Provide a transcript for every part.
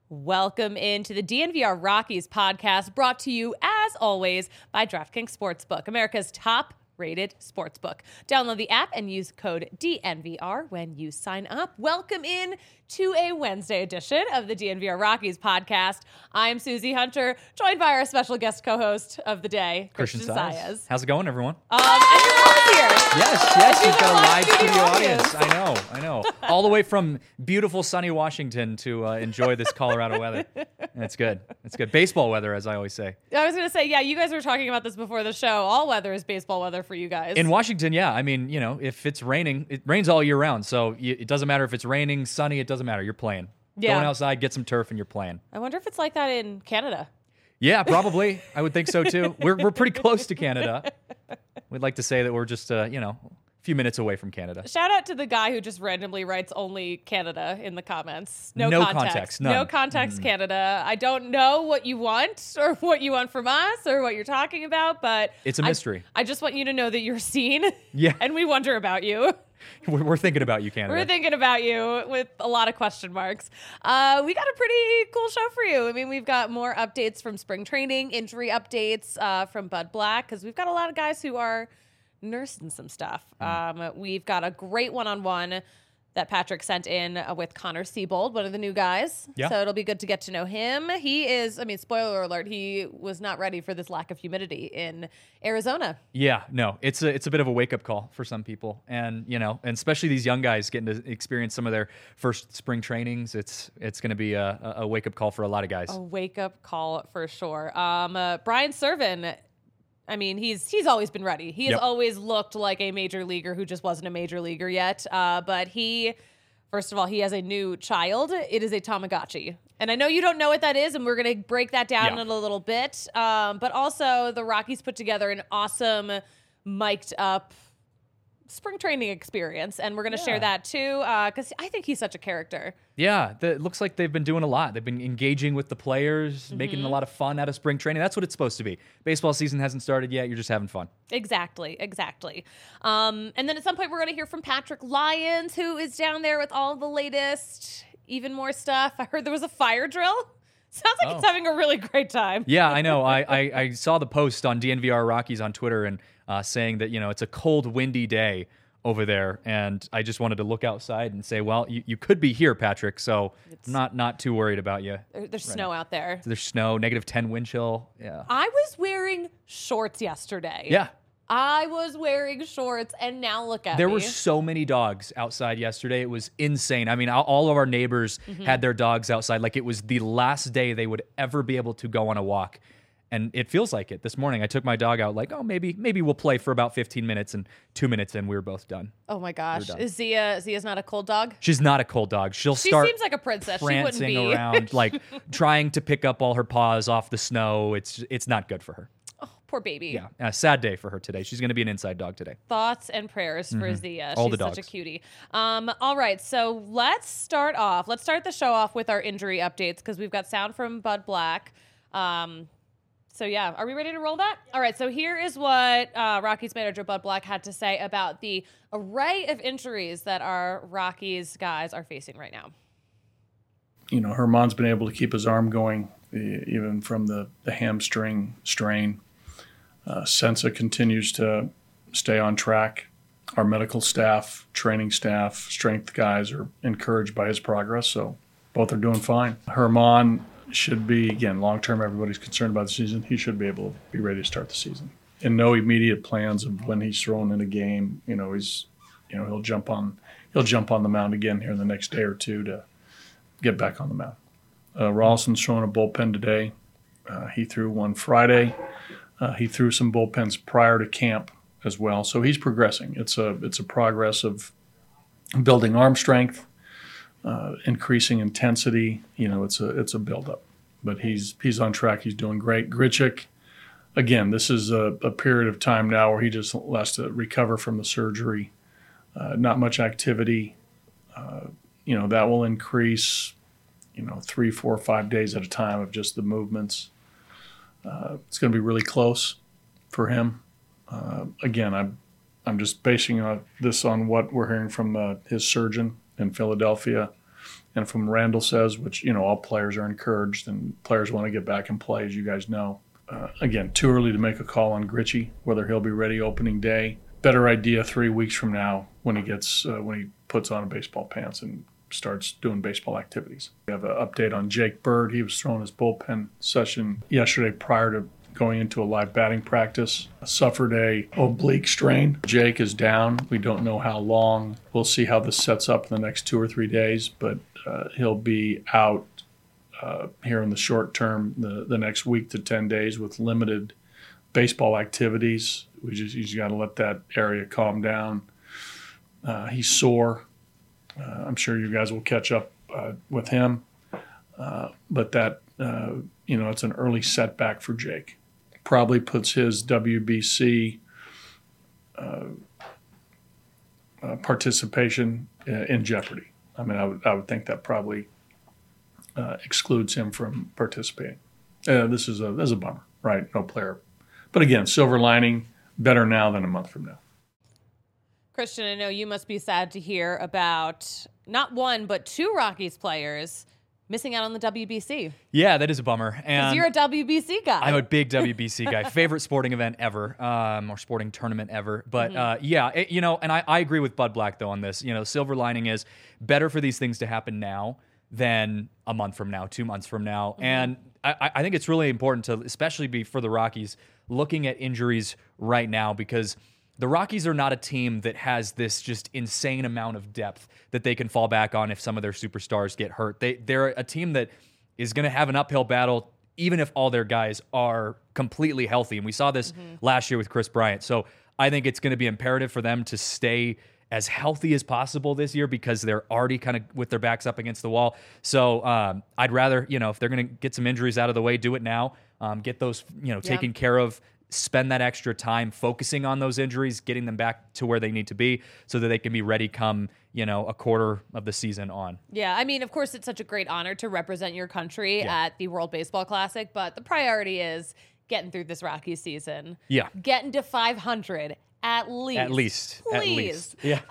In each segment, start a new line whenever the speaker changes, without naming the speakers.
Welcome into the DNVR Rockies podcast, brought to you, as always, by DraftKings Sportsbook, America's top-rated sportsbook. Download the app and use code DNVR when you sign up. Welcome in to a Wednesday edition of the DNVR Rockies podcast. I'm Susie Hunter, joined by our special guest co-host of the day, Christian Saez.
How's it going, everyone?
And your mom's here.
Yes, we've got a live studio audience. I know. All the way from beautiful sunny Washington to enjoy this Colorado weather. It's good. Baseball weather, as I always say.
I was going to say, yeah, you guys were talking about this before the show. All weather is baseball weather for you guys.
In Washington, yeah. I mean, if it's raining, it rains all year round. So it doesn't matter if it's raining, sunny, it doesn't matter. You're playing.
Yeah.
Going outside, get some turf, and you're playing.
I wonder if it's like that in Canada.
Yeah, probably. I would think so, too. We're pretty close to Canada. We'd like to say that we're just, a few minutes away from Canada.
Shout out to the guy who just randomly writes only Canada in the comments. No context.
None.
No context, Canada. I don't know what you want or what you want from us or what you're talking about, but
it's a mystery.
I just want you to know that you're seen.
Yeah.
And we wonder about you.
We're thinking about you, Canada.
We're thinking about you with a lot of question marks. We got a pretty cool show for you. I mean, we've got more updates from spring training, injury updates from Bud Black, because we've got a lot of guys who are nursing some stuff. We've got a great one-on-one that Patrick sent in with Connor Siebold, one of the new guys.
Yeah.
So it'll be good to get to know him. He is, spoiler alert, he was not ready for this lack of humidity in Arizona.
Yeah, no, it's a bit of a wake-up call for some people. And, and especially these young guys getting to experience some of their first spring trainings. It's going to be a wake-up call for a lot of guys.
A wake-up call for sure. Brian Serven, he's always been ready. He has always looked like a major leaguer who just wasn't a major leaguer yet. But first of all, he has a new child. It is a Tamagotchi. And I know you don't know what that is, and we're going to break that down in a little bit. But also, the Rockies put together an awesome, mic'd up spring training experience, and we're going to share that too, because I think he's such a character.
Yeah, it looks like they've been doing a lot. They've been engaging with the players, making a lot of fun out of spring training. That's what it's supposed to be. Baseball season hasn't started yet. You're just having fun.
Exactly. And then at some point, we're going to hear from Patrick Lyons, who is down there with all the latest, even more stuff. I heard there was a fire drill. Sounds like it's having a really great time.
Yeah, I know. I saw the post on DNVR Rockies on Twitter and saying that, it's a cold, windy day over there. And I just wanted to look outside and say, well, you could be here, Patrick. So I'm not too worried about you.
There's snow out there.
There's snow, -10 wind chill. Yeah.
I was wearing shorts yesterday.
Yeah.
I was wearing shorts, and now look at me.
There were so many dogs outside yesterday. It was insane. I mean, all of our neighbors had their dogs outside like it was the last day they would ever be able to go on a walk. And it feels like it. This morning, I took my dog out like, maybe we'll play for about 15 minutes, and 2 minutes in, we were both done.
Oh, my gosh. Is Zia's not a cold dog?
She's not a cold dog. She
seems like a princess.
Prancing
she wouldn't be.
around, like trying to pick up all her paws off the snow. It's not good for her.
Oh, poor baby.
Yeah, a sad day for her today. She's going to be an inside dog today.
Thoughts and prayers for Zia.
All
She's
the
such
dogs.
a cutie. All right, so let's start the show off with our injury updates, because we've got sound from Bud Black. So yeah, are we ready to roll that? All right, so here is what Rockies manager Bud Black had to say about the array of injuries that our Rockies guys are facing right now.
Herman's been able to keep his arm going even from the hamstring strain. Sensa continues to stay on track. Our medical staff, training staff, strength guys are encouraged by his progress, so both are doing fine. Herman should be, again, long-term, everybody's concerned about the season. He should be able to be ready to start the season. And no immediate plans of when he's thrown in a game. He'll jump on the mound again here in the next day or two to get back on the mound. Rawson's throwing a bullpen today. He threw one Friday. He threw some bullpens prior to camp as well. So he's progressing. It's a progress of building arm strength, increasing intensity. It's a buildup. But he's on track. He's doing great. Grichuk, again, this is a period of time now where he just has to recover from the surgery. Not much activity. That will increase, 3, 4, 5 days at a time of just the movements. It's going to be really close for him. Again, I'm just basing this on what we're hearing from his surgeon in Philadelphia. And from Randall says, which, all players are encouraged and players want to get back and play, as you guys know. Again, too early to make a call on Gritchie, whether he'll be ready opening day. Better idea 3 weeks from now when he puts on baseball pants and starts doing baseball activities. We have an update on Jake Bird. He was throwing his bullpen session yesterday prior to going into a live batting practice. Suffered a oblique strain. Jake is down. We don't know how long. We'll see how this sets up in the next 2 or 3 days, but he'll be out here in the short term, the next week to 10 days with limited baseball activities. He's got to let that area calm down. He's sore. I'm sure you guys will catch up with him. But that, it's an early setback for Jake. Probably puts his WBC participation in jeopardy. I mean, I would think that probably excludes him from participating. This is a bummer, right? No player. But again, silver lining, better now than a month from now.
Christian, I know you must be sad to hear about not one, but 2 Rockies players missing out on the WBC.
Yeah, that is a bummer.
Because you're a WBC guy.
I'm a big WBC guy. Favorite sporting event ever, or sporting tournament ever. But and I agree with Bud Black, though, on this. Silver lining is better for these things to happen now than a month from now, 2 months from now. Mm-hmm. And I think it's really important to, especially be for the Rockies, looking at injuries right now, because the Rockies are not a team that has this just insane amount of depth that they can fall back on if some of their superstars get hurt. They're a team that is going to have an uphill battle even if all their guys are completely healthy. And we saw this last year with Chris Bryant. So I think it's going to be imperative for them to stay as healthy as possible this year because they're already kind of with their backs up against the wall. So I'd rather, if they're going to get some injuries out of the way, do it now. Get those, taken care of. Spend that extra time focusing on those injuries, getting them back to where they need to be so that they can be ready come, a quarter of the season on.
Yeah, I mean, of course, it's such a great honor to represent your country at the World Baseball Classic, but the priority is getting through this Rockies season.
Yeah.
Getting to 500 at least. Please.
Yeah.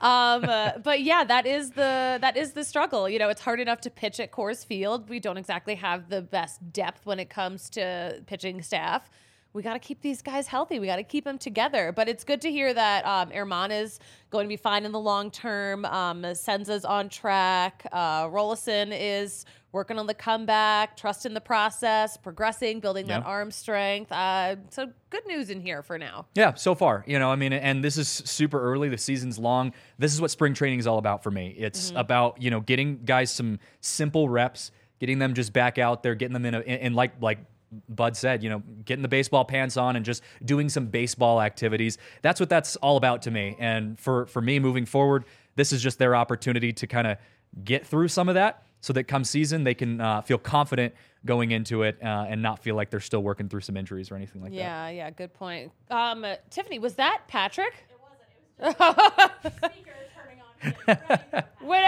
But yeah, that is the struggle. It's hard enough to pitch at Coors Field. We don't exactly have the best depth when it comes to pitching staff. We got to keep these guys healthy. We got to keep them together. But it's good to hear that Erman is going to be fine in the long term. Senza's on track. Rollison is working on the comeback, trusting the process, progressing, building that arm strength. So good news in here for now.
Yeah, so far. And this is super early. The season's long. This is what spring training is all about for me. It's about, getting guys some simple reps, getting them just back out there, getting them in like Bud said, getting the baseball pants on and just doing some baseball activities. That's what that's all about to me. And for me moving forward, this is just their opportunity to kind of get through some of that so that come season they can feel confident going into it and not feel like they're still working through some injuries or anything like that.
Yeah, good point. Tiffany, was that Patrick?
It wasn't. It was just the speaker turning on.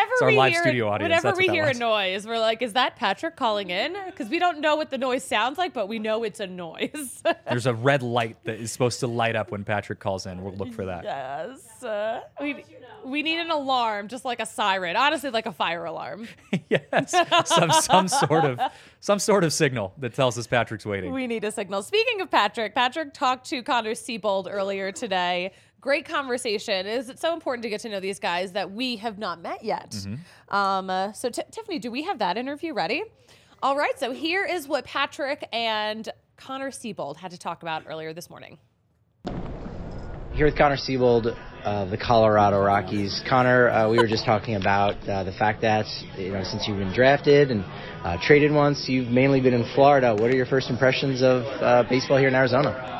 Whenever we hear a noise, we're like, is that Patrick calling in? Because we don't know what the noise sounds like, but we know it's a noise.
There's a red light that is supposed to light up when Patrick calls in. We'll look for that.
Yes. We need an alarm, just like a siren. Honestly, like a fire alarm.
Yes. Some sort of signal that tells us Patrick's waiting.
We need a signal. Speaking of Patrick talked to Connor Siebold earlier today. Great conversation. It's so important to get to know these guys that we have not met yet. So Tiffany, do we have that interview ready? All right, so here is what Patrick and Connor Siebold had to talk about earlier this morning.
Here with Connor Siebold of the Colorado Rockies. Connor, we were just talking about the fact that, since you've been drafted and traded once, you've mainly been in Florida. What are your first impressions of baseball here in Arizona?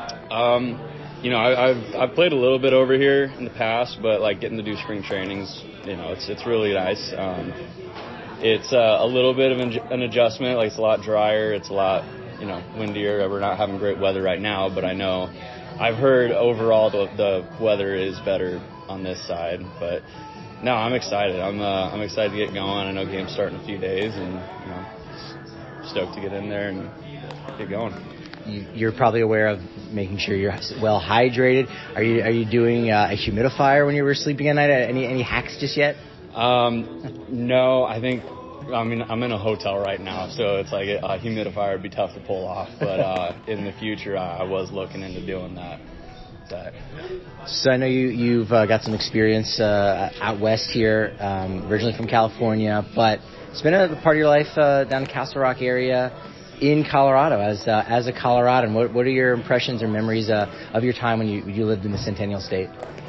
I've played a little bit over here in the past, but getting to do spring trainings, it's really nice. It's a little bit of an adjustment. It's a lot drier. It's a lot, windier. We're not having great weather right now, but I've heard overall the weather is better on this side. But no, I'm excited. I'm excited to get going. I know games start in a few days, and stoked to get in there and get going.
You're probably aware of making sure you're well hydrated. Are you doing a humidifier when you were sleeping at night? Any hacks just yet?
No, I think I mean, I'm in a hotel right now, so it's like a humidifier would be tough to pull off. But in the future, I was looking into doing that.
So I know you've got some experience out west here, originally from California, but it's been a part of your life down in Castle Rock area in Colorado as a Coloradan. What are your impressions or memories of your time when you lived in the Centennial State?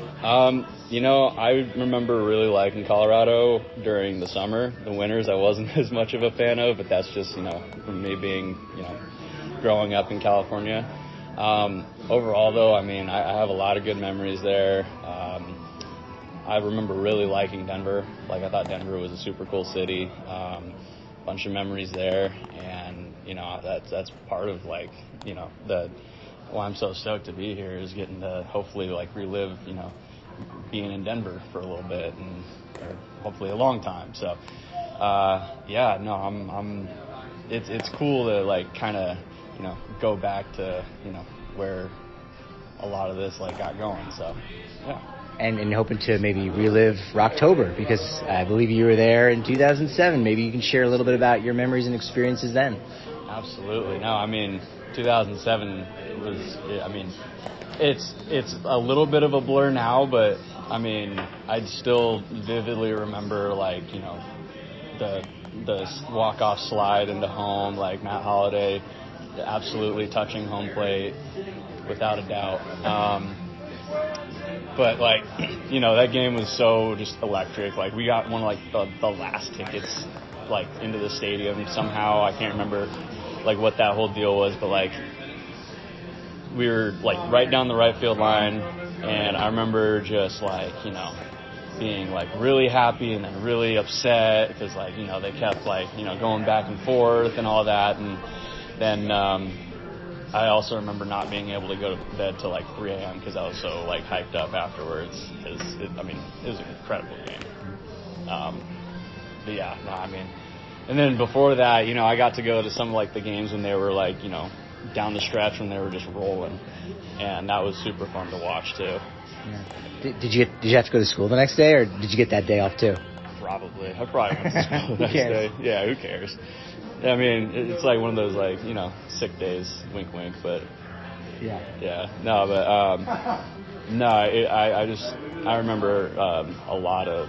I remember really liking Colorado during the summer. The winters I wasn't as much of a fan of, but that's just, from me being, growing up in California. Overall, though, I mean, I have a lot of good memories there. I remember really liking Denver. Like, I thought Denver was a super cool city. Bunch of memories there, and that's part of why I'm so stoked to be here is getting to hopefully relive being in Denver for a little bit or hopefully a long time. So it's cool to kind of go back to where a lot of this got going. So yeah.
And hoping to maybe relive Rocktober, because I believe you were there in 2007. Maybe you can share a little bit about your memories and experiences then.
Absolutely. No, I mean, 2007 it's a little bit of a blur now, but I mean, I'd still vividly remember the walk-off slide into home, Matt Holliday absolutely touching home plate without a doubt. But that game was so just electric. We got one of the last tickets into the stadium somehow. I can't remember what that whole deal was, but we were right down the right field line, and I remember just being really happy and then really upset because they kept going back and forth and all that, and then I also remember not being able to go to bed till 3 a.m. because I was so hyped up afterwards. It was an incredible game. But yeah, no, I mean, and then before that, I got to go to some of the games when they were down the stretch when they were just rolling, and that was super fun to watch too.
Yeah. Did you have to go to school the next day, or did you get that day off too?
Probably. I probably went to school the next day. Yeah, who cares? I mean, it's one of those sick days, wink, wink. But yeah, no, but no, I remember a lot of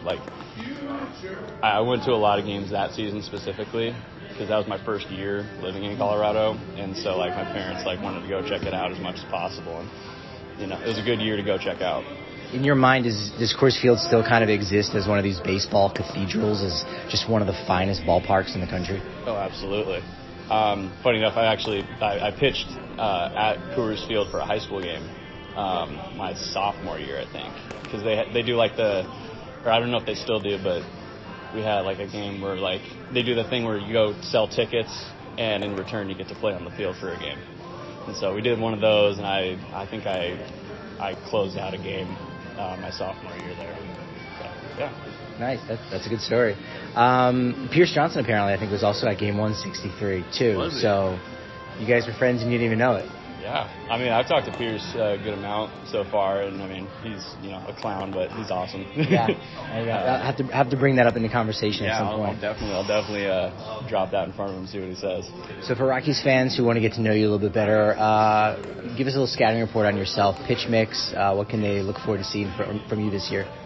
I went to a lot of games that season specifically because that was my first year living in Colorado, and so my parents wanted to go check it out as much as possible, and it was a good year to go check out.
In your mind, does Coors Field still kind of exist as one of these baseball cathedrals, as just one of the finest ballparks in the country?
Oh, absolutely. Funny enough, I pitched at Coors Field for a high school game my sophomore year, I think, because they do or I don't know if they still do, but we had a game where they do the thing where you go sell tickets and in return you get to play on the field for a game. And so we did one of those, and I think I closed out a game my sophomore year there. So, yeah.
Nice. That's a good story. Pierce Johnson apparently I think was also at game 163 too.
Was he?
So you guys were friends and you didn't even know it.
Yeah, I mean, I've talked to Pierce a good amount so far, and I mean, he's a clown, but he's awesome.
Yeah, I have to bring that up in the conversation at some point.
I'll definitely drop that in front of him and see what he says.
So for Rockies fans who want to get to know you a little bit better, give us a little scouting report on yourself. Pitch mix. What can they look forward to seeing from you this year?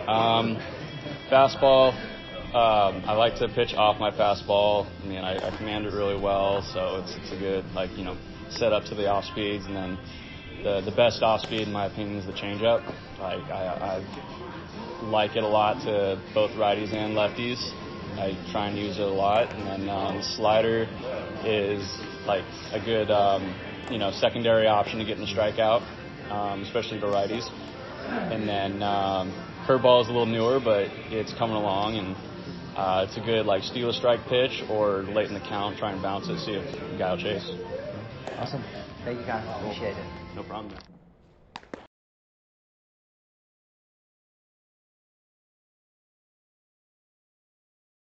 Fastball. I like to pitch off my fastball. I mean, I command it really well, so it's a good set up to the off speeds, and then the best off speed in my opinion is the changeup. I like it a lot to both righties and lefties. I try and use it a lot, and then the slider is a good secondary option to get in the strikeout, especially to righties. And then curveball is a little newer, but it's coming along, and it's a good steal a strike pitch or late in the count, try and bounce it, see if the guy will chase.
Awesome. Thank you, Connor. Appreciate it.
No problem.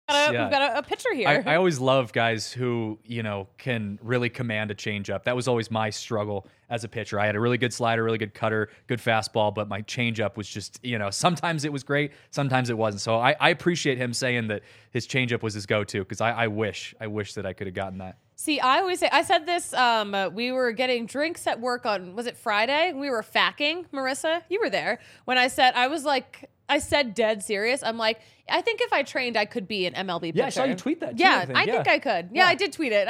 We've got a pitcher here.
I always love guys who, can really command a changeup. That was always my struggle as a pitcher. I had a really good slider, really good cutter, good fastball, but my changeup was just, sometimes it was great, sometimes it wasn't. So I appreciate him saying that his changeup was his go-to, because I wish that I could have gotten that.
See, I always say, I said this, we were getting drinks at work on, was it Friday? We were facking, Marissa, you were there, when I said dead serious. I'm like, I think if I trained, I could be an MLB pitcher.
Yeah, I saw you tweet that too,
Yeah, I think I could. Yeah, I did tweet it.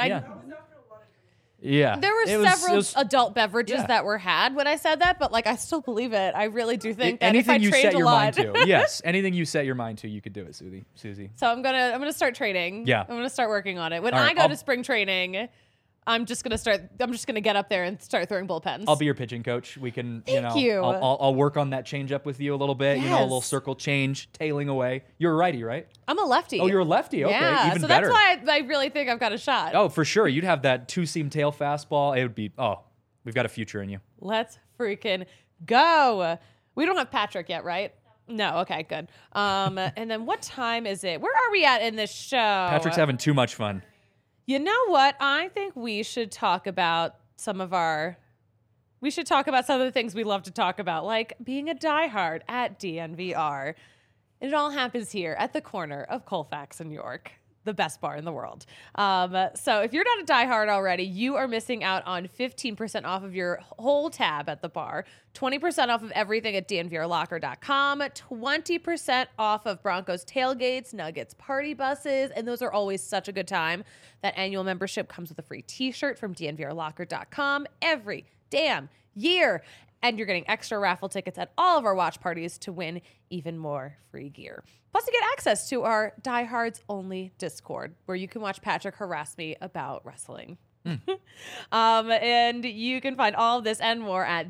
Yeah.
There were several adult beverages that were had when I said that, but I still believe it. I really do think that if I trained a lot.
Yes, anything you set your mind to, you could do it, Susie.
So I'm gonna start training.
Yeah.
I'm gonna start working on it. When I go to spring training, I'm just gonna get up there and start throwing bullpens.
I'll be your pitching coach. We can,
Thank you.
I'll work on that change up with you a little bit.
Yes.
A little circle change, tailing away. You're a righty, right?
I'm a lefty.
Oh, you're a lefty. Okay,
yeah.
even
so
better.
that's why I really think I've got a shot.
Oh, for sure. You'd have that 2-seam tail fastball. It would be. Oh, we've got a future in you.
Let's freaking go. We don't have Patrick yet, right? No. Okay, good. And then what time is it? Where are we at in this show?
Patrick's having too much fun.
You know what? I think we should talk about some of the things we love to talk about, like being a diehard at DNVR. It all happens here at the corner of Colfax and York, the best bar in the world. So if you're not a diehard already, you are missing out on 15% off of your whole tab at the bar, 20% off of everything at DNVRlocker.com, 20% off of Broncos tailgates, Nuggets party buses, and those are always such a good time. That annual membership comes with a free t-shirt from DNVRlocker.com every damn year. And you're getting extra raffle tickets at all of our watch parties to win even more free gear. Plus, you get access to our Diehards Only Discord, where you can watch Patrick harass me about wrestling. And you can find all of this and more at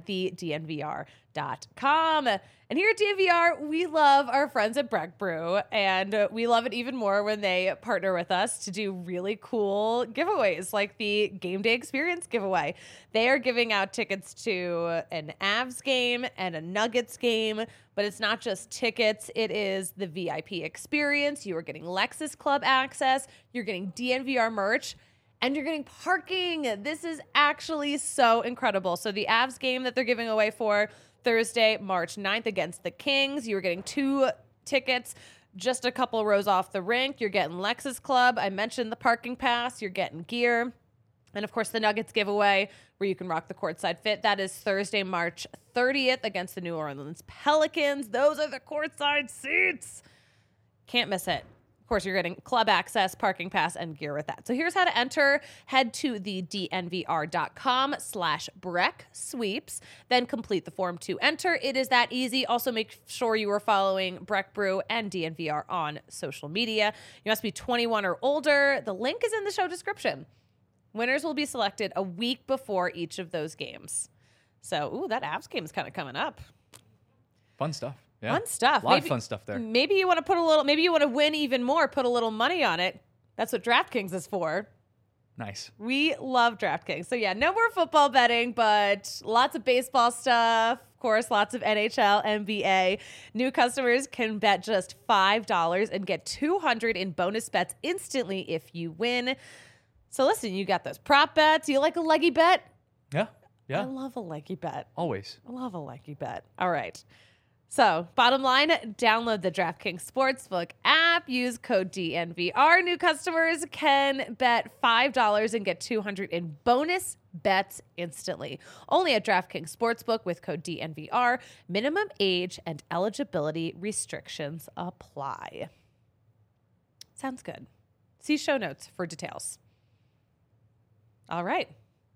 thednvr.com. And here at DNVR, we love our friends at Breck Brew, and we love it even more when they partner with us to do really cool giveaways, like the Game Day Experience giveaway. They are giving out tickets to an Avs game and a Nuggets game, but it's not just tickets. It is the VIP experience. You are getting Lexus Club access. You're getting DNVR merch. And you're getting parking. This is actually so incredible. So the Avs game that they're giving away for Thursday, March 9th against the Kings, you were getting 2 tickets just a couple rows off the rink. You're getting Lexus Club. I mentioned the parking pass. You're getting gear. And, of course, the Nuggets giveaway where you can rock the courtside fit. That is Thursday, March 30th against the New Orleans Pelicans. Those are the courtside seats. Can't miss it. Of course, you're getting club access, parking pass, and gear with that. So here's how to enter. Head to the dnvr.com/Breck Sweeps, then complete the form to enter. It is that easy. Also, make sure you are following Breck Brew and DNVR on social media. You must be 21 or older. The link is in the show description. Winners will be selected a week before each of those games. So, that Avs game is kind of coming up.
Fun stuff. Yeah.
Fun stuff.
A lot of fun stuff there.
Maybe you want to win even more, put a little money on it. That's what DraftKings is for.
Nice.
We love DraftKings. So yeah, no more football betting, but lots of baseball stuff. Of course, lots of NHL, NBA. New customers can bet just $5 and get $200 in bonus bets instantly if you win. So listen, you got those prop bets. You like a leggy bet?
Yeah. Yeah.
I love a leggy bet.
Always.
I love a leggy bet. All right. So, bottom line, download the DraftKings Sportsbook app. Use code DNVR. New customers can bet $5 and get $200 in bonus bets instantly. Only at DraftKings Sportsbook with code DNVR. Minimum age and eligibility restrictions apply. Sounds good. See show notes for details. All right.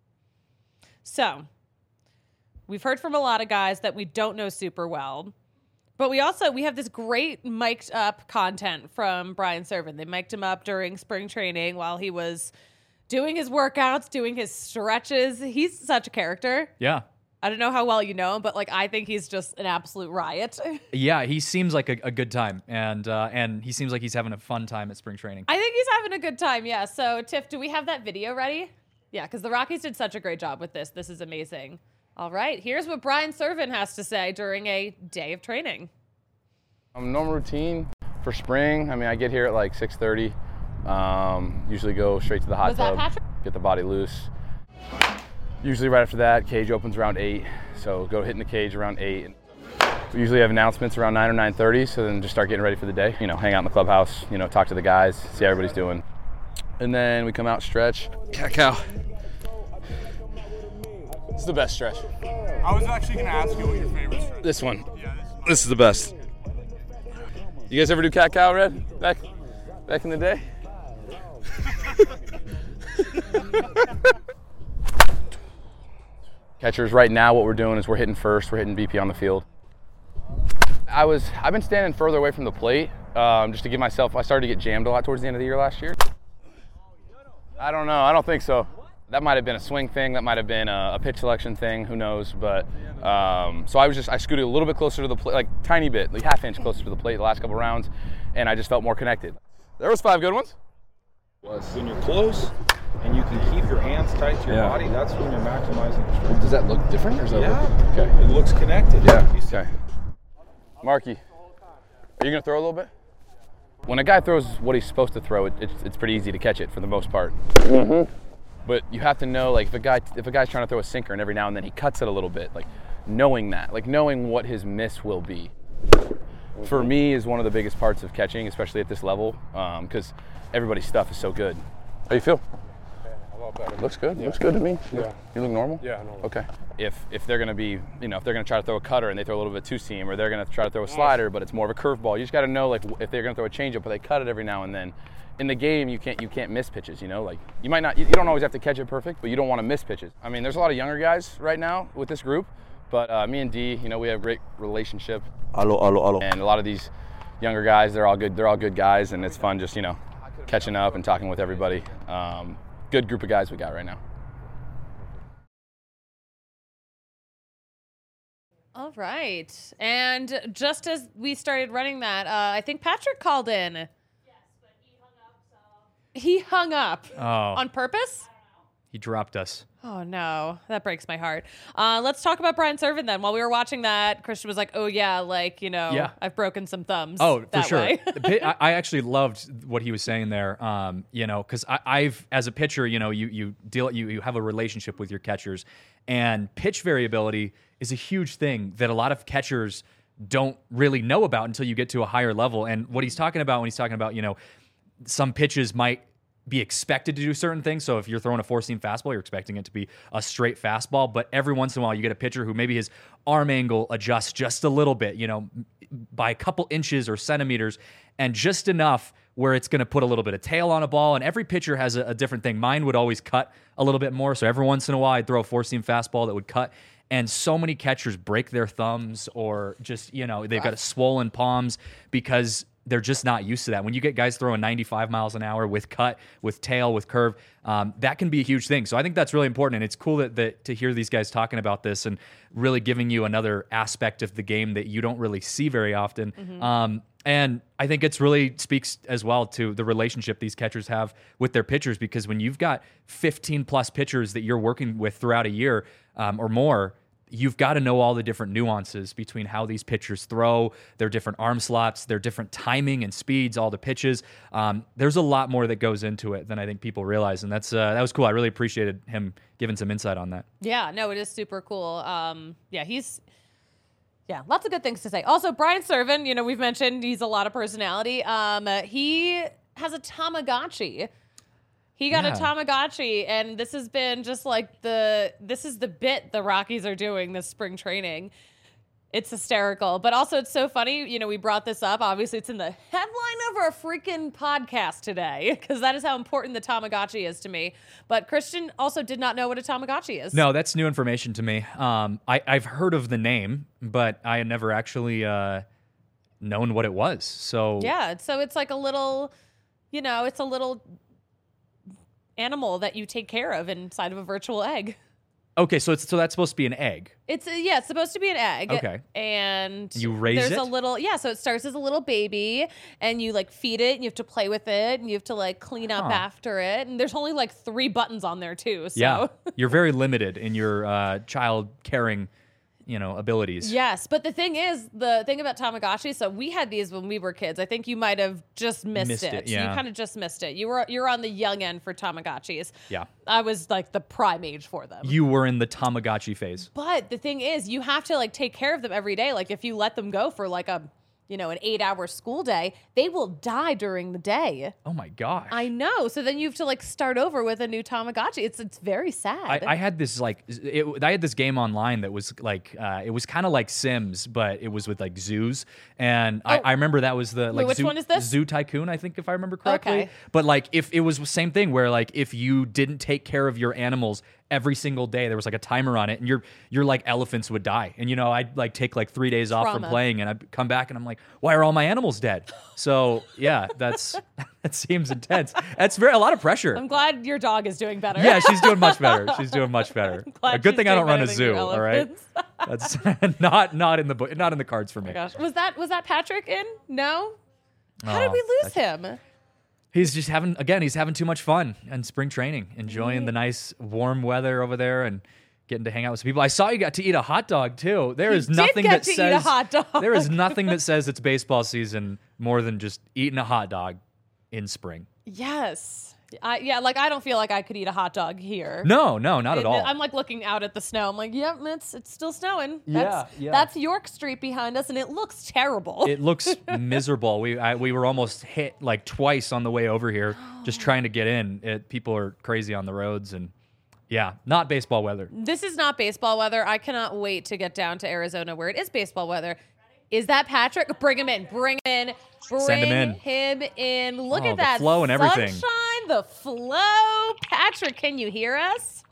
So, we've heard from a lot of guys that we don't know super well. But we have this great mic'd up content from Brian Serven. They mic'd him up during spring training while he was doing his workouts, doing his stretches. He's such a character.
Yeah.
I don't know how well you know him, but I think he's just an absolute riot.
Yeah, he seems like a good time, and he seems like he's having a fun time at spring training.
I think he's having a good time, yeah. So, Tiff, do we have that video ready? Yeah, because the Rockies did such a great job with this. This is amazing. All right, here's what Brian Serven has to say during a day of training.
Normal routine, For spring, I mean, I get here at like 6:30. Usually go straight to the hot
Was that
tub,
Patrick?
get the body loose. Usually right after that, cage opens around 8, so go hitting the cage around 8. We usually have announcements around 9 or 9:30, so then just start getting ready for the day. You know, hang out in the clubhouse, you know, talk to the guys, see how everybody's doing. And then we come out, stretch. Cat-cow. It's the best stretch.
I was actually going to ask you what your favorite stretch is.
This one.
Yeah,
This is the best. You guys ever do cat-cow, Red? Back in the day? Catchers, right now what we're doing is we're hitting first, we're hitting BP on the field. I've been standing further away from the plate just to give myself, I started to get jammed a lot towards the end of the year last year. I don't know, I don't think so. That might have been a swing thing, that might have been a pitch selection thing, who knows, but so I scooted a little bit closer to the plate, like tiny bit, like half inch closer to the plate the last couple rounds, and I just felt more connected. There was 5 good ones.
When you're close and you can keep your hands tight to your body, that's when you're maximizing your strength.
Does that look different, or is that
Yeah,
okay?
It looks connected.
Yeah, okay. Marky, are you gonna throw a little bit? When a guy throws what he's supposed to throw, it's pretty easy to catch it for the most part. Mm-hmm. But you have to know, like, if a guy's trying to throw a sinker and every now and then he cuts it a little bit, like knowing that, like knowing what his miss will be, for me is one of the biggest parts of catching, especially at this level, because everybody's stuff is so good. How you feel?
A lot better.
Looks good. Yeah. Looks good to me.
Yeah.
You look normal?
Yeah, normal.
Okay. If they're gonna be, you know, if they're gonna try to throw a cutter and they throw a little bit two seam, or they're gonna try to throw a slider but it's more of a curveball, you just got to know, like, if they're gonna throw a changeup but they cut it every now and then. In the game, you can't miss pitches. You know, like you might not, you don't always have to catch it perfect, but you don't want to miss pitches. I mean, there's a lot of younger guys right now with this group, but me and D, you know, we have a great relationship. And a lot of these younger guys, they're all good guys, and it's fun just, you know, catching up and talking with everybody. Good group of guys we got right now.
All right. And just as we started running that, I think Patrick called in. He hung up.
Oh.
On purpose?
He dropped us.
Oh, no. That breaks my heart. Let's talk about Brian Serven then. While we were watching that, Christian was like, oh, yeah, like, you know,
Yeah.
I've broken some thumbs.
Oh,
that
for sure.
way.
I actually loved what he was saying there. You know, because I've, as a pitcher, you know, you have a relationship with your catchers, and pitch variability is a huge thing that a lot of catchers don't really know about until you get to a higher level. And what he's talking about when he's talking about, you know, some pitches might be expected to do certain things. So if you're throwing a 4-seam fastball, you're expecting it to be a straight fastball. But every once in a while, you get a pitcher who maybe his arm angle adjusts just a little bit, you know, by a couple inches or centimeters, and just enough where it's going to put a little bit of tail on a ball. And every pitcher has a different thing. Mine would always cut a little bit more. So every once in a while, I'd throw a 4-seam fastball that would cut. And so many catchers break their thumbs, or just, you know, they've got swollen palms because they're just not used to that. When you get guys throwing 95 miles an hour with cut, with tail, with curve, that can be a huge thing. So I think that's really important. And it's cool that to hear these guys talking about this and really giving you another aspect of the game that you don't really see very often. Mm-hmm. And I think it's really speaks as well to the relationship these catchers have with their pitchers, because when you've got 15 plus pitchers that you're working with throughout a year or more, you've got to know all the different nuances between how these pitchers throw, their different arm slots, their different timing and speeds, all the pitches. There's a lot more that goes into it than I think people realize, and that was cool. I really appreciated him giving some insight on that.
Yeah, no, it is super cool. Lots of good things to say. Also, Brian Serven, you know, we've mentioned he's a lot of personality. He has a Tamagotchi. He got a Tamagotchi, and this has been just like this is the bit the Rockies are doing this spring training. It's hysterical. But also it's so funny, you know, we brought this up. Obviously, it's in the headline of our freaking podcast today, because that is how important the Tamagotchi is to me. But Christian also did not know what a Tamagotchi is.
No, that's new information to me. I've heard of the name, but I had never actually known what it was. So
yeah, so it's like a little, you know, it's a little animal that you take care of inside of a virtual egg.
Okay, so that's supposed to be an egg.
It's supposed to be an egg.
Okay.
And
you raise
there's
it?
a little, so it starts as a little baby, and you like feed it, and you have to play with it, and you have to like clean up after it. And there's only like 3 buttons on there too. So
yeah, you're very limited in your child caring, abilities.
Yes, but the thing about Tamagotchi, so we had these when we were kids. I think you might have just missed it.
Yeah.
You kind of just missed it. You're on the young end for Tamagotchis.
Yeah.
I was like the prime age for them.
You were in the Tamagotchi phase.
But the thing is, you have to like take care of them every day. Like if you let them go for like an 8-hour school day, they will die during the day.
Oh my gosh.
I know. So then you have to like start over with a new Tamagotchi. It's very sad.
I had this I had this game online that was like it was kind of like Sims, but it was with like zoos. And I remember that was the like
which one is this?
Zoo Tycoon, I think, if I remember correctly.
Okay.
But like if it was the same thing where like if you didn't take care of your animals every single day, there was like a timer on it, and your like elephants would die. And I'd like take like 3 days off from playing, and I'd come back and I'm like, why are all my animals dead? So yeah, that seems intense. That's a lot of pressure.
I'm glad your dog is doing better.
Yeah, she's doing much better. She's doing much better.
A
good thing I don't run a zoo. All right, that's not in the cards for me.
Oh my gosh, was that Patrick in? No. How did we lose him?
He's just having too much fun in spring training, enjoying the nice warm weather over there and getting to hang out with some people. I saw you got to eat a hot dog too. There is nothing that says
eat a hot dog.
There is nothing that says it's baseball season more than just eating a hot dog in spring.
Yes. I don't feel like I could eat a hot dog here.
No, not at all.
I'm like looking out at the snow. I'm like, yep, it's still snowing.
Yeah.
That's York Street behind us, and it looks terrible.
It looks miserable. We were almost hit like twice on the way over here, just trying to get in. People are crazy on the roads, and yeah, not baseball weather.
This is not baseball weather. I cannot wait to get down to Arizona where it is baseball weather. Is that Patrick? Bring him in.
Send him
in. Look at that
the flow and everything.
Sunshine, the flow. Patrick, can you hear us?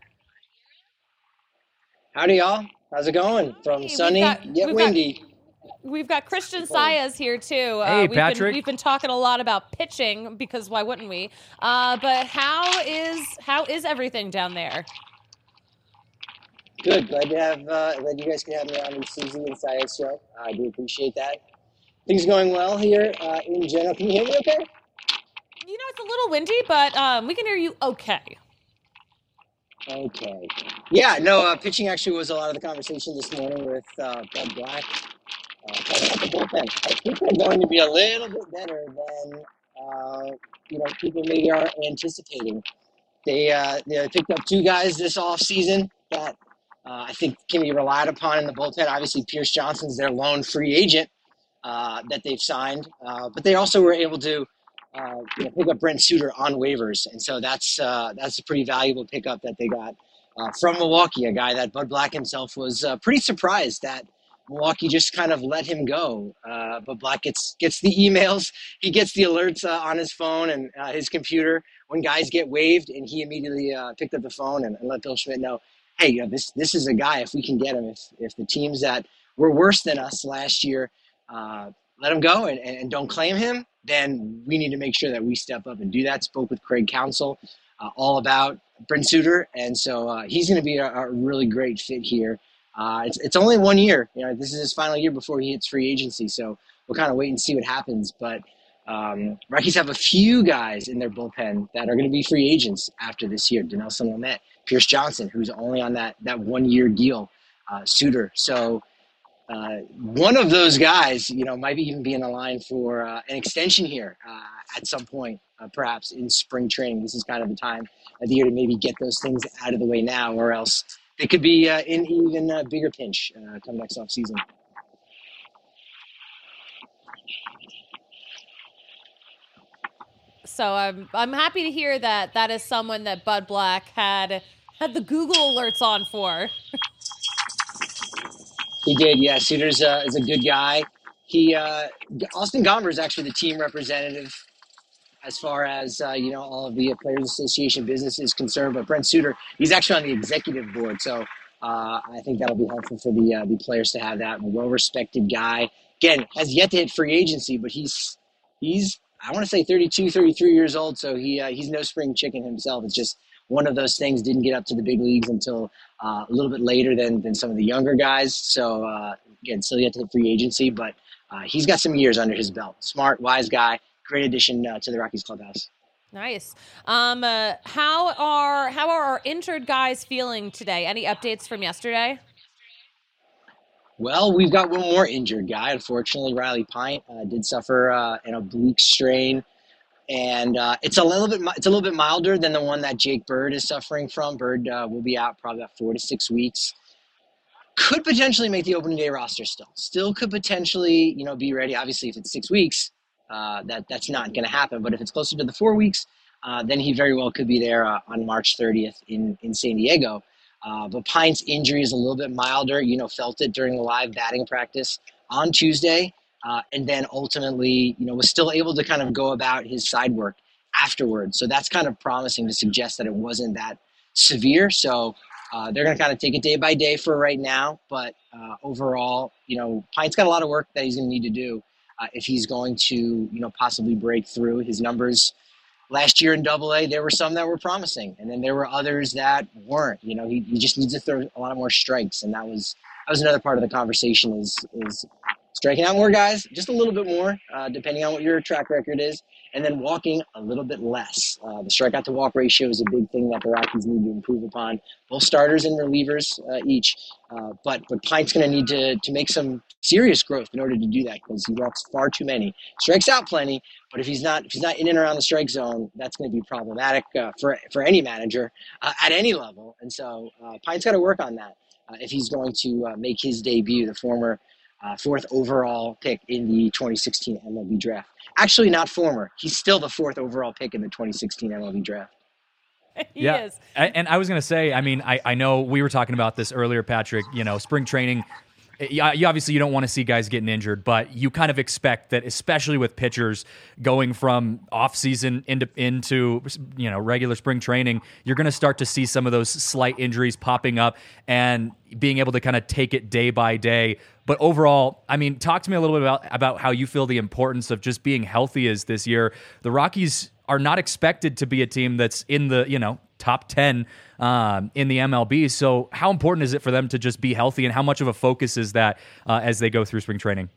Howdy, y'all. How's it going? From sunny yet windy.
We've got Christian Saez here too.
Hey, Patrick.
We've been talking a lot about pitching because why wouldn't we? But how is everything down there?
Good. Glad you guys can have me on the Susie and Saez show. I do appreciate that. Things going well here in general. Can you hear me okay?
It's a little windy, but we can hear you okay.
Okay. Yeah, no, pitching actually was a lot of the conversation this morning with Bud Black. The bullpen. I think they're going to be a little bit better than people maybe are anticipating. They picked up 2 guys this offseason that I think can be relied upon in the bullpen. Obviously, Pierce Johnson's their lone free agent that they've signed, but they also were able to pick up Brent Suter on waivers, and so that's a pretty valuable pickup that they got from Milwaukee. A guy that Bud Black himself was pretty surprised that Milwaukee just kind of let him go. But Black gets the emails, he gets the alerts on his phone and his computer when guys get waived, and he immediately picked up the phone and let Bill Schmidt know, hey, this is a guy, if we can get him, if the teams that were worse than us last year let him go and don't claim him, then we need to make sure that we step up and do that. Spoke with Craig Counsell all about Brent Suter, and so he's going to be a really great fit here. It's only 1 year. This is his final year before he hits free agency, so we'll kind of wait and see what happens. But Rockies have a few guys in their bullpen that are going to be free agents after this year. Dinelson Lamet, Pierce Johnson, who's only on that 1 year deal, Suter. So one of those guys, might even be in the line for an extension here at some point, perhaps in spring training. This is kind of the time of the year to maybe get those things out of the way now, or else they could be in even a bigger pinch come next offseason.
So I'm happy to hear that is someone that Bud Black had the Google alerts on for.
He did, yeah. Suter's is a good guy. Austin Gomber is actually the team representative as far as all of the Players Association business is concerned. But Brent Suter, he's actually on the executive board, so I think that'll be helpful for the players to have that. A well-respected guy. Again, has yet to hit free agency, but he's I want to say 32, 33 years old, so he's no spring chicken himself. It's just one of those things, didn't get up to the big leagues until a little bit later than some of the younger guys. So, again, still yet to hit free agency, but he's got some years under his belt. Smart, wise guy, great addition to the Rockies clubhouse.
Nice. How are our injured guys feeling today? Any updates from yesterday?
Well, we've got one more injured guy. Unfortunately, Riley Pint did suffer an oblique strain, and it's a little bit milder than the one that Jake Bird is suffering from. Bird will be out probably about 4 to 6 weeks. Could potentially make the opening day roster still could potentially, be ready. Obviously, if it's 6 weeks, that's not going to happen. But if it's closer to the 4 weeks, then he very well could be there on March 30th in San Diego. But Pint's injury is a little bit milder. Felt it during the live batting practice on Tuesday, and then ultimately, was still able to kind of go about his side work afterwards. So that's kind of promising to suggest that it wasn't that severe. So they're going to kind of take it day by day for right now. But overall, Pint's got a lot of work that he's going to need to do if he's going to, possibly break through. His numbers last year in Double-A, there were some that were promising, and then there were others that weren't. He just needs to throw a lot more strikes, and that was another part of the conversation is striking out more guys, just a little bit more, depending on what your track record is, and then walking a little bit less. The strikeout to walk ratio is a big thing that the Rockies need to improve upon, both starters and relievers each. But Pint's going to need to make some serious growth in order to do that, because he walks far too many. Strikes out plenty, but if he's not in and around the strike zone, that's going to be problematic for any manager at any level. And so Pint's got to work on that if he's going to make his debut, the former fourth overall pick in the 2016 MLB draft. Actually, not former. He's still the fourth overall pick in the 2016 MLB draft.
He is.
And I was going to say, I know we were talking about this earlier, Patrick, spring training. You obviously you don't want to see guys getting injured, but you kind of expect that, especially with pitchers going from off season into regular spring training, you're going to start to see some of those slight injuries popping up and being able to kind of take it day by day. But overall, talk to me a little bit about how you feel the importance of just being healthy is this year. The Rockies are not expected to be a team that's in the top 10 in the MLB. So how important is it for them to just be healthy, and how much of a focus is that as they go through spring training?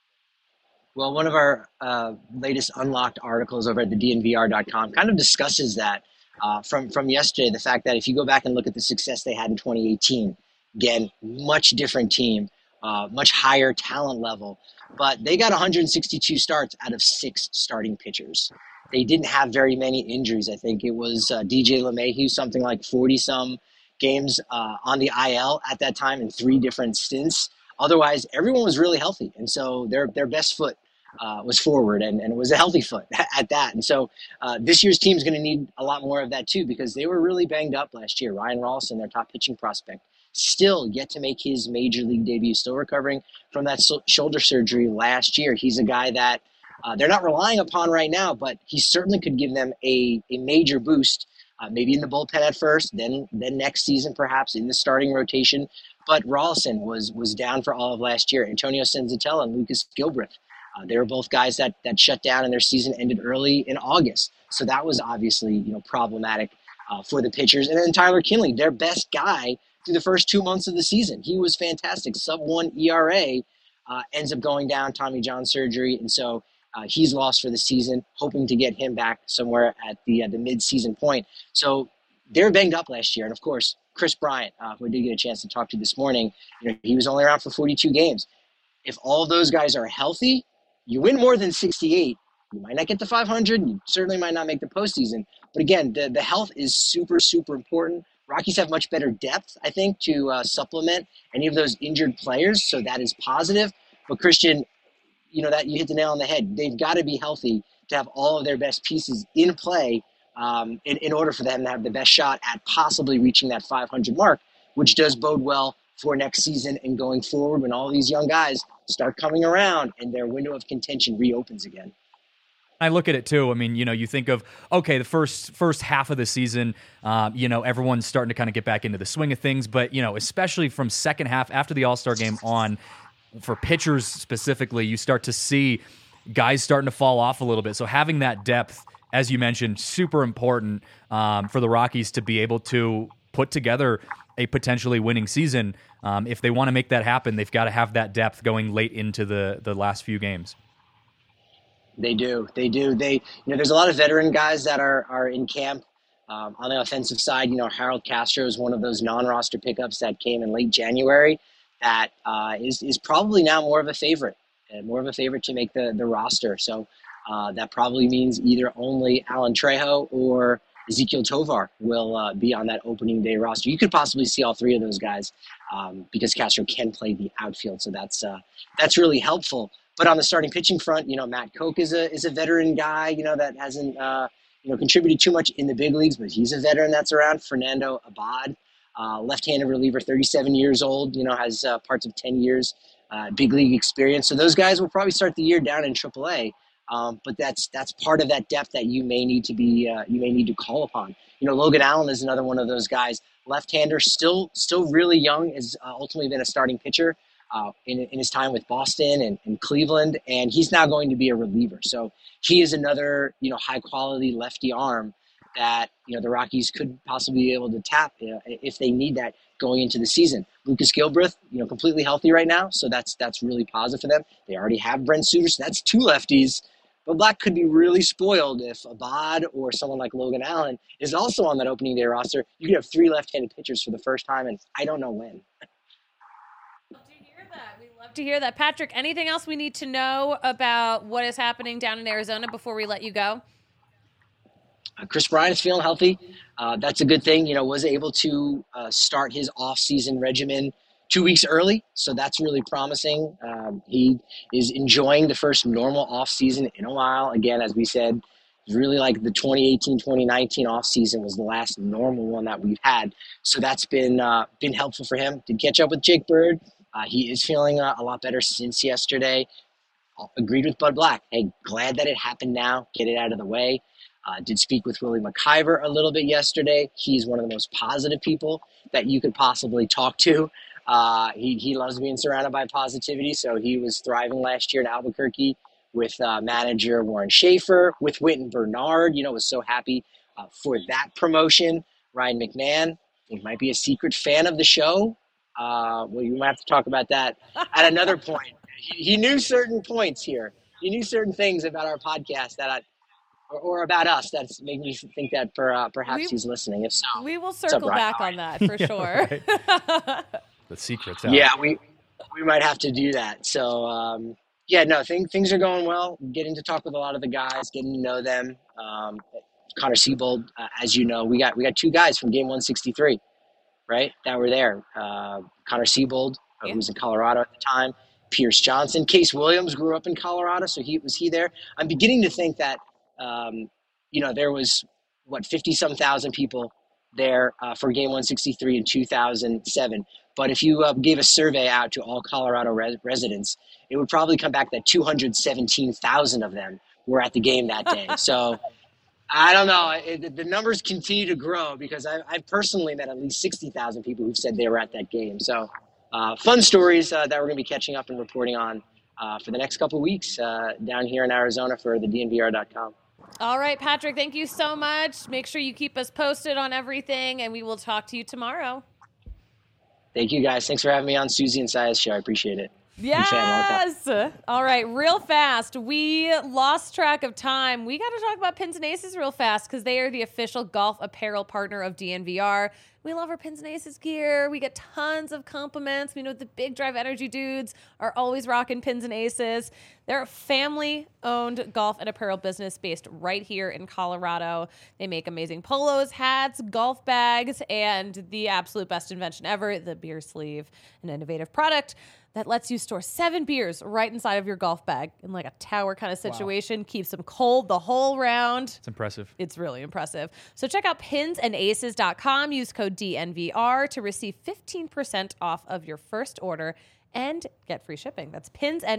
Well, one of our latest unlocked articles over at the DNVR.com kind of discusses that from yesterday, the fact that if you go back and look at the success they had in 2018, again, much different team, much higher talent level, but they got 162 starts out of 6 starting pitchers. They didn't have very many injuries. I think it was DJ LeMahieu, something like 40-some games on the IL at that time in 3 different stints. Otherwise, everyone was really healthy. And so their best foot was forward, and it was a healthy foot at that. And so this year's team is going to need a lot more of that too, because they were really banged up last year. Ryan Rolston, their top pitching prospect, still yet to make his major league debut, still recovering from that shoulder surgery last year. He's a guy that they're not relying upon right now, but he certainly could give them a major boost, maybe in the bullpen at first, then next season perhaps in the starting rotation. But Rolston was down for all of last year. Antonio Senzatella and Lucas Gilbreth, they were both guys that shut down and their season ended early in August. So that was obviously problematic for the pitchers. And then Tyler Kinley, their best guy through the first 2 months of the season. He was fantastic. Sub-1 ERA, ends up going down, Tommy John surgery. And so he's lost for the season, hoping to get him back somewhere at the mid-season point. So they were banged up last year. And, of course, Chris Bryant, who I did get a chance to talk to this morning, he was only around for 42 games. If all of those guys are healthy, you win more than 68. You might not get to 500. You certainly might not make the postseason. But, again, the health is super, super important. Rockies have much better depth, I think, to supplement any of those injured players. So that is positive. But, Christian, that you hit the nail on the head. They've got to be healthy to have all of their best pieces in play in order for them to have the best shot at possibly reaching that 500 mark, which does bode well for next season and going forward when all these young guys start coming around and their window of contention reopens again.
I look at it too. You think of, okay, the first half of the season, everyone's starting to kind of get back into the swing of things, but, especially from second half after the All-Star game on, for pitchers specifically, you start to see guys starting to fall off a little bit. So having that depth, as you mentioned, super important for the Rockies to be able to put together a potentially winning season. If they want to make that happen, they've got to have that depth going late into the last few games.
They do. There's a lot of veteran guys that are in camp. On the offensive side, Harold Castro is one of those non-roster pickups that came in late January that is probably now more of a favorite to make the roster. So that probably means either only Alan Trejo or Ezequiel Tovar will be on that opening day roster. You could possibly see all three of those guys because Castro can play the outfield, so that's really helpful. But on the starting pitching front, Matt Koch is a veteran guy, that hasn't contributed too much in the big leagues, but he's a veteran that's around. Fernando Abad, left-handed reliever, 37 years old, has parts of 10 years big league experience. So those guys will probably start the year down in AAA. But that's part of that depth that you may need to call upon. Logan Allen is another one of those guys, left-hander, still really young, has ultimately been a starting pitcher in his time with Boston and Cleveland, and he's now going to be a reliever. So he is another high-quality lefty arm that the Rockies could possibly be able to tap if they need that going into the season. Lucas Gilbreth, completely healthy right now, so that's really positive for them. They already have Brent Suter, so that's two lefties. But Black could be really spoiled if Abad or someone like Logan Allen is also on that opening day roster. You could have three left-handed pitchers for the first time, and I don't know when.
Love to hear that. We love to hear that. Patrick, anything else we need to know about what is happening down in Arizona before we let you go?
Chris Bryant is feeling healthy. That's a good thing. Was able to start his off-season regimen 2 weeks early, so that's really promising. He is enjoying the first normal off-season in a while. Again, as we said, really like the 2018-2019 off-season was the last normal one that we've had. So that's been helpful for him. Did catch up with Jake Bird. He is feeling a lot better since yesterday. Agreed with Bud Black. Hey, glad that it happened now. Get it out of the way. Did speak with Willie McIver a little bit yesterday. He's one of the most positive people that you could possibly talk to. He loves being surrounded by positivity, so he was thriving last year in Albuquerque with manager Warren Schaefer, with Wynton Bernard. Was so happy for that promotion. Ryan McMahon, I think, might be a secret fan of the show. Well, you might have to talk about that at another point. He knew certain points here. He knew certain things about our podcast or about us that's making me think that perhaps he's listening. If so,
we will circle back on that for sure.
The secret's out.
Yeah, we might have to do that. So things are going well. Getting to talk with a lot of the guys, getting to know them. Connor Siebold, as you know, we got two guys from Game 163, right, that were there. Connor Siebold, who was in Colorado at the time. Pierce Johnson. Case Williams grew up in Colorado, so was he there? I'm beginning to think that there was 50-some thousand people there for Game 163 in 2007. But if you gave a survey out to all Colorado residents, it would probably come back that 217,000 of them were at the game that day. So I don't know. The numbers continue to grow because I've personally met at least 60,000 people who've said they were at that game. So fun stories that we're going to be catching up and reporting on for the next couple of weeks down here in Arizona for the DNVR.com.
All right, Patrick, thank you so much. Make sure you keep us posted on everything, and we will talk to you tomorrow.
Thank you, guys. Thanks for having me on Susie and Saya's show. I appreciate it.
Yes. All right, real fast. We lost track of time. We got to talk about Pins and Aces real fast because they are the official golf apparel partner of DNVR. We love our Pins and Aces gear. We get tons of compliments. We know the Big Drive Energy dudes are always rocking Pins and Aces. They're a family-owned golf and apparel business based right here in Colorado. They make amazing polos, hats, golf bags, and the absolute best invention ever, the beer sleeve, an innovative product that lets you store 7 beers right inside of your golf bag in like a tower kind of situation. Wow. Keeps them cold the whole round.
It's impressive.
It's really impressive. So check out pinsandaces.com. Use code DNVR to receive 15% off of your first order and get free shipping. That's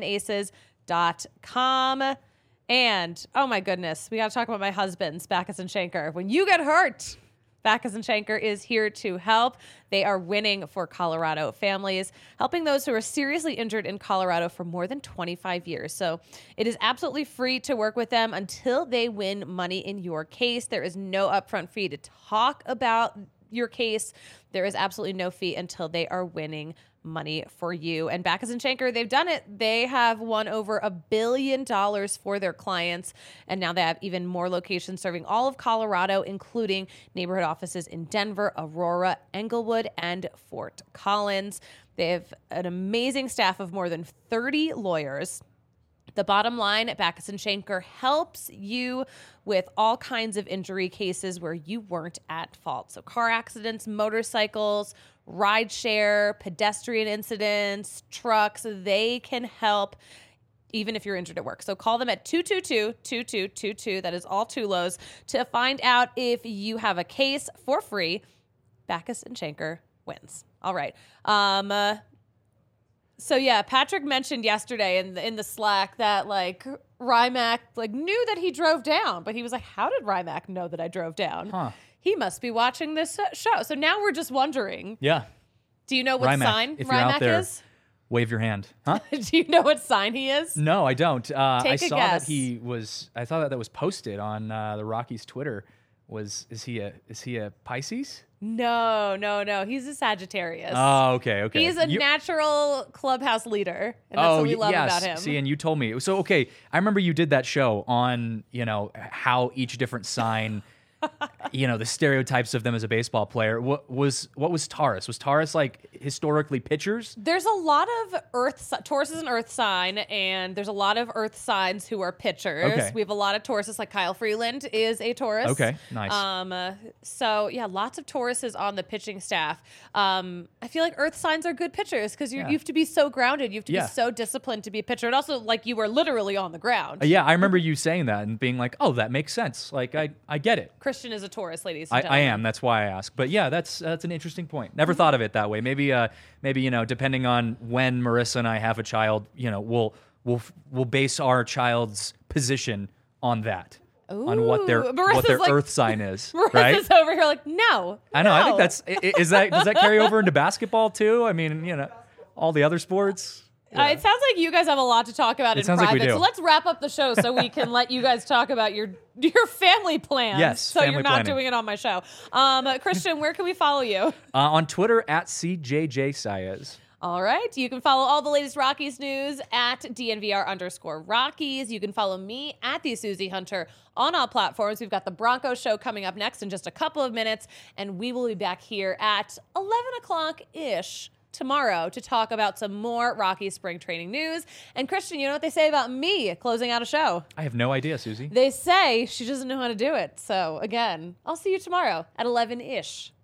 pinsandaces.com. And, oh my goodness, we got to talk about my husband's Backus and Schenker. When you get hurt, Backus and Schenker is here to help. They are winning for Colorado families, helping those who are seriously injured in Colorado for more than 25 years. So it is absolutely free to work with them until they win money in your case. There is no upfront fee to talk about your case. There is absolutely no fee until they are winning money for you. And Backus and Schenker, they've done it. They have won over $1 billion for their clients. And now they have even more locations serving all of Colorado, including neighborhood offices in Denver, Aurora, Englewood, and Fort Collins. They have an amazing staff of more than 30 lawyers. The bottom line, Backus and Schenker helps you with all kinds of injury cases where you weren't at fault. So car accidents, motorcycles, rideshare, pedestrian incidents, trucks, they can help even if you're injured at work. So call them at 222-2222. That is all Tulos to find out if you have a case for free. Backus and Schenker wins. All right. So yeah, Patrick mentioned yesterday in the Slack that like Rymack like knew that he drove down, but he was like, "How did Rymack know that I drove down?
Huh.
He must be watching this show." So now we're just wondering.
Yeah.
Do you know what
Rymack,
sign
if you're out
Rymack
there,
is?
Wave your hand. Huh?
Do you know what sign he is?
No, I don't. I
Take a
saw
guess.
that he was. I thought that was posted on the Rockies' Twitter. Is he a Pisces?
No. He's a Sagittarius.
Oh, okay.
He's a natural clubhouse leader, and that's what we love
yes.
about him.
See, and you told me. So, okay, I remember you did that show on, how each different sign, the stereotypes of them as a baseball player. What was Taurus? Was Taurus like historically pitchers?
There's a lot of Taurus is an earth sign, and there's a lot of earth signs who are pitchers.
Okay.
We have a lot of Tauruses, like Kyle Freeland is a Taurus.
Okay, nice.
So yeah, lots of Tauruses on the pitching staff. I feel like earth signs are good pitchers because you have to be so grounded. You have to be so disciplined to be a pitcher. And also, like, you were literally on the ground.
Yeah, I remember you saying that and being like, "Oh, that makes sense. Like, I get it."
Christian is a Taurus, ladies and
I
gentlemen.
am. That's why I asked. But yeah, that's an interesting point. Never thought of it that way. Maybe depending on when Marissa and I have a child, we'll base our child's position on that, on what their
Marissa's
earth sign is.
Marissa's
right?
over here like, no.
I know. I think
no.
that's does that carry over into basketball too? I mean, all the other sports. Yeah.
It sounds like you guys have a lot to talk about in
sounds like we
private.
do.
So let's wrap up the show so we can let you guys talk about your family plans.
Yes,
so
family
you're not
planning.
doing it on my show. Christian, where can we follow you?
On Twitter at CJJ Saez.
All right. You can follow all the latest Rockies news at DNVR_Rockies. You can follow me at the Susie Hunter on all platforms. We've got the Broncos show coming up next in just a couple of minutes, and we will be back here at 11 o'clock-ish tomorrow to talk about some more Rockies spring training news. And Christian, you know what they say about me closing out a show?
I have no idea, Susie.
They say she doesn't know how to do it. So again, I'll see you tomorrow at 11-ish.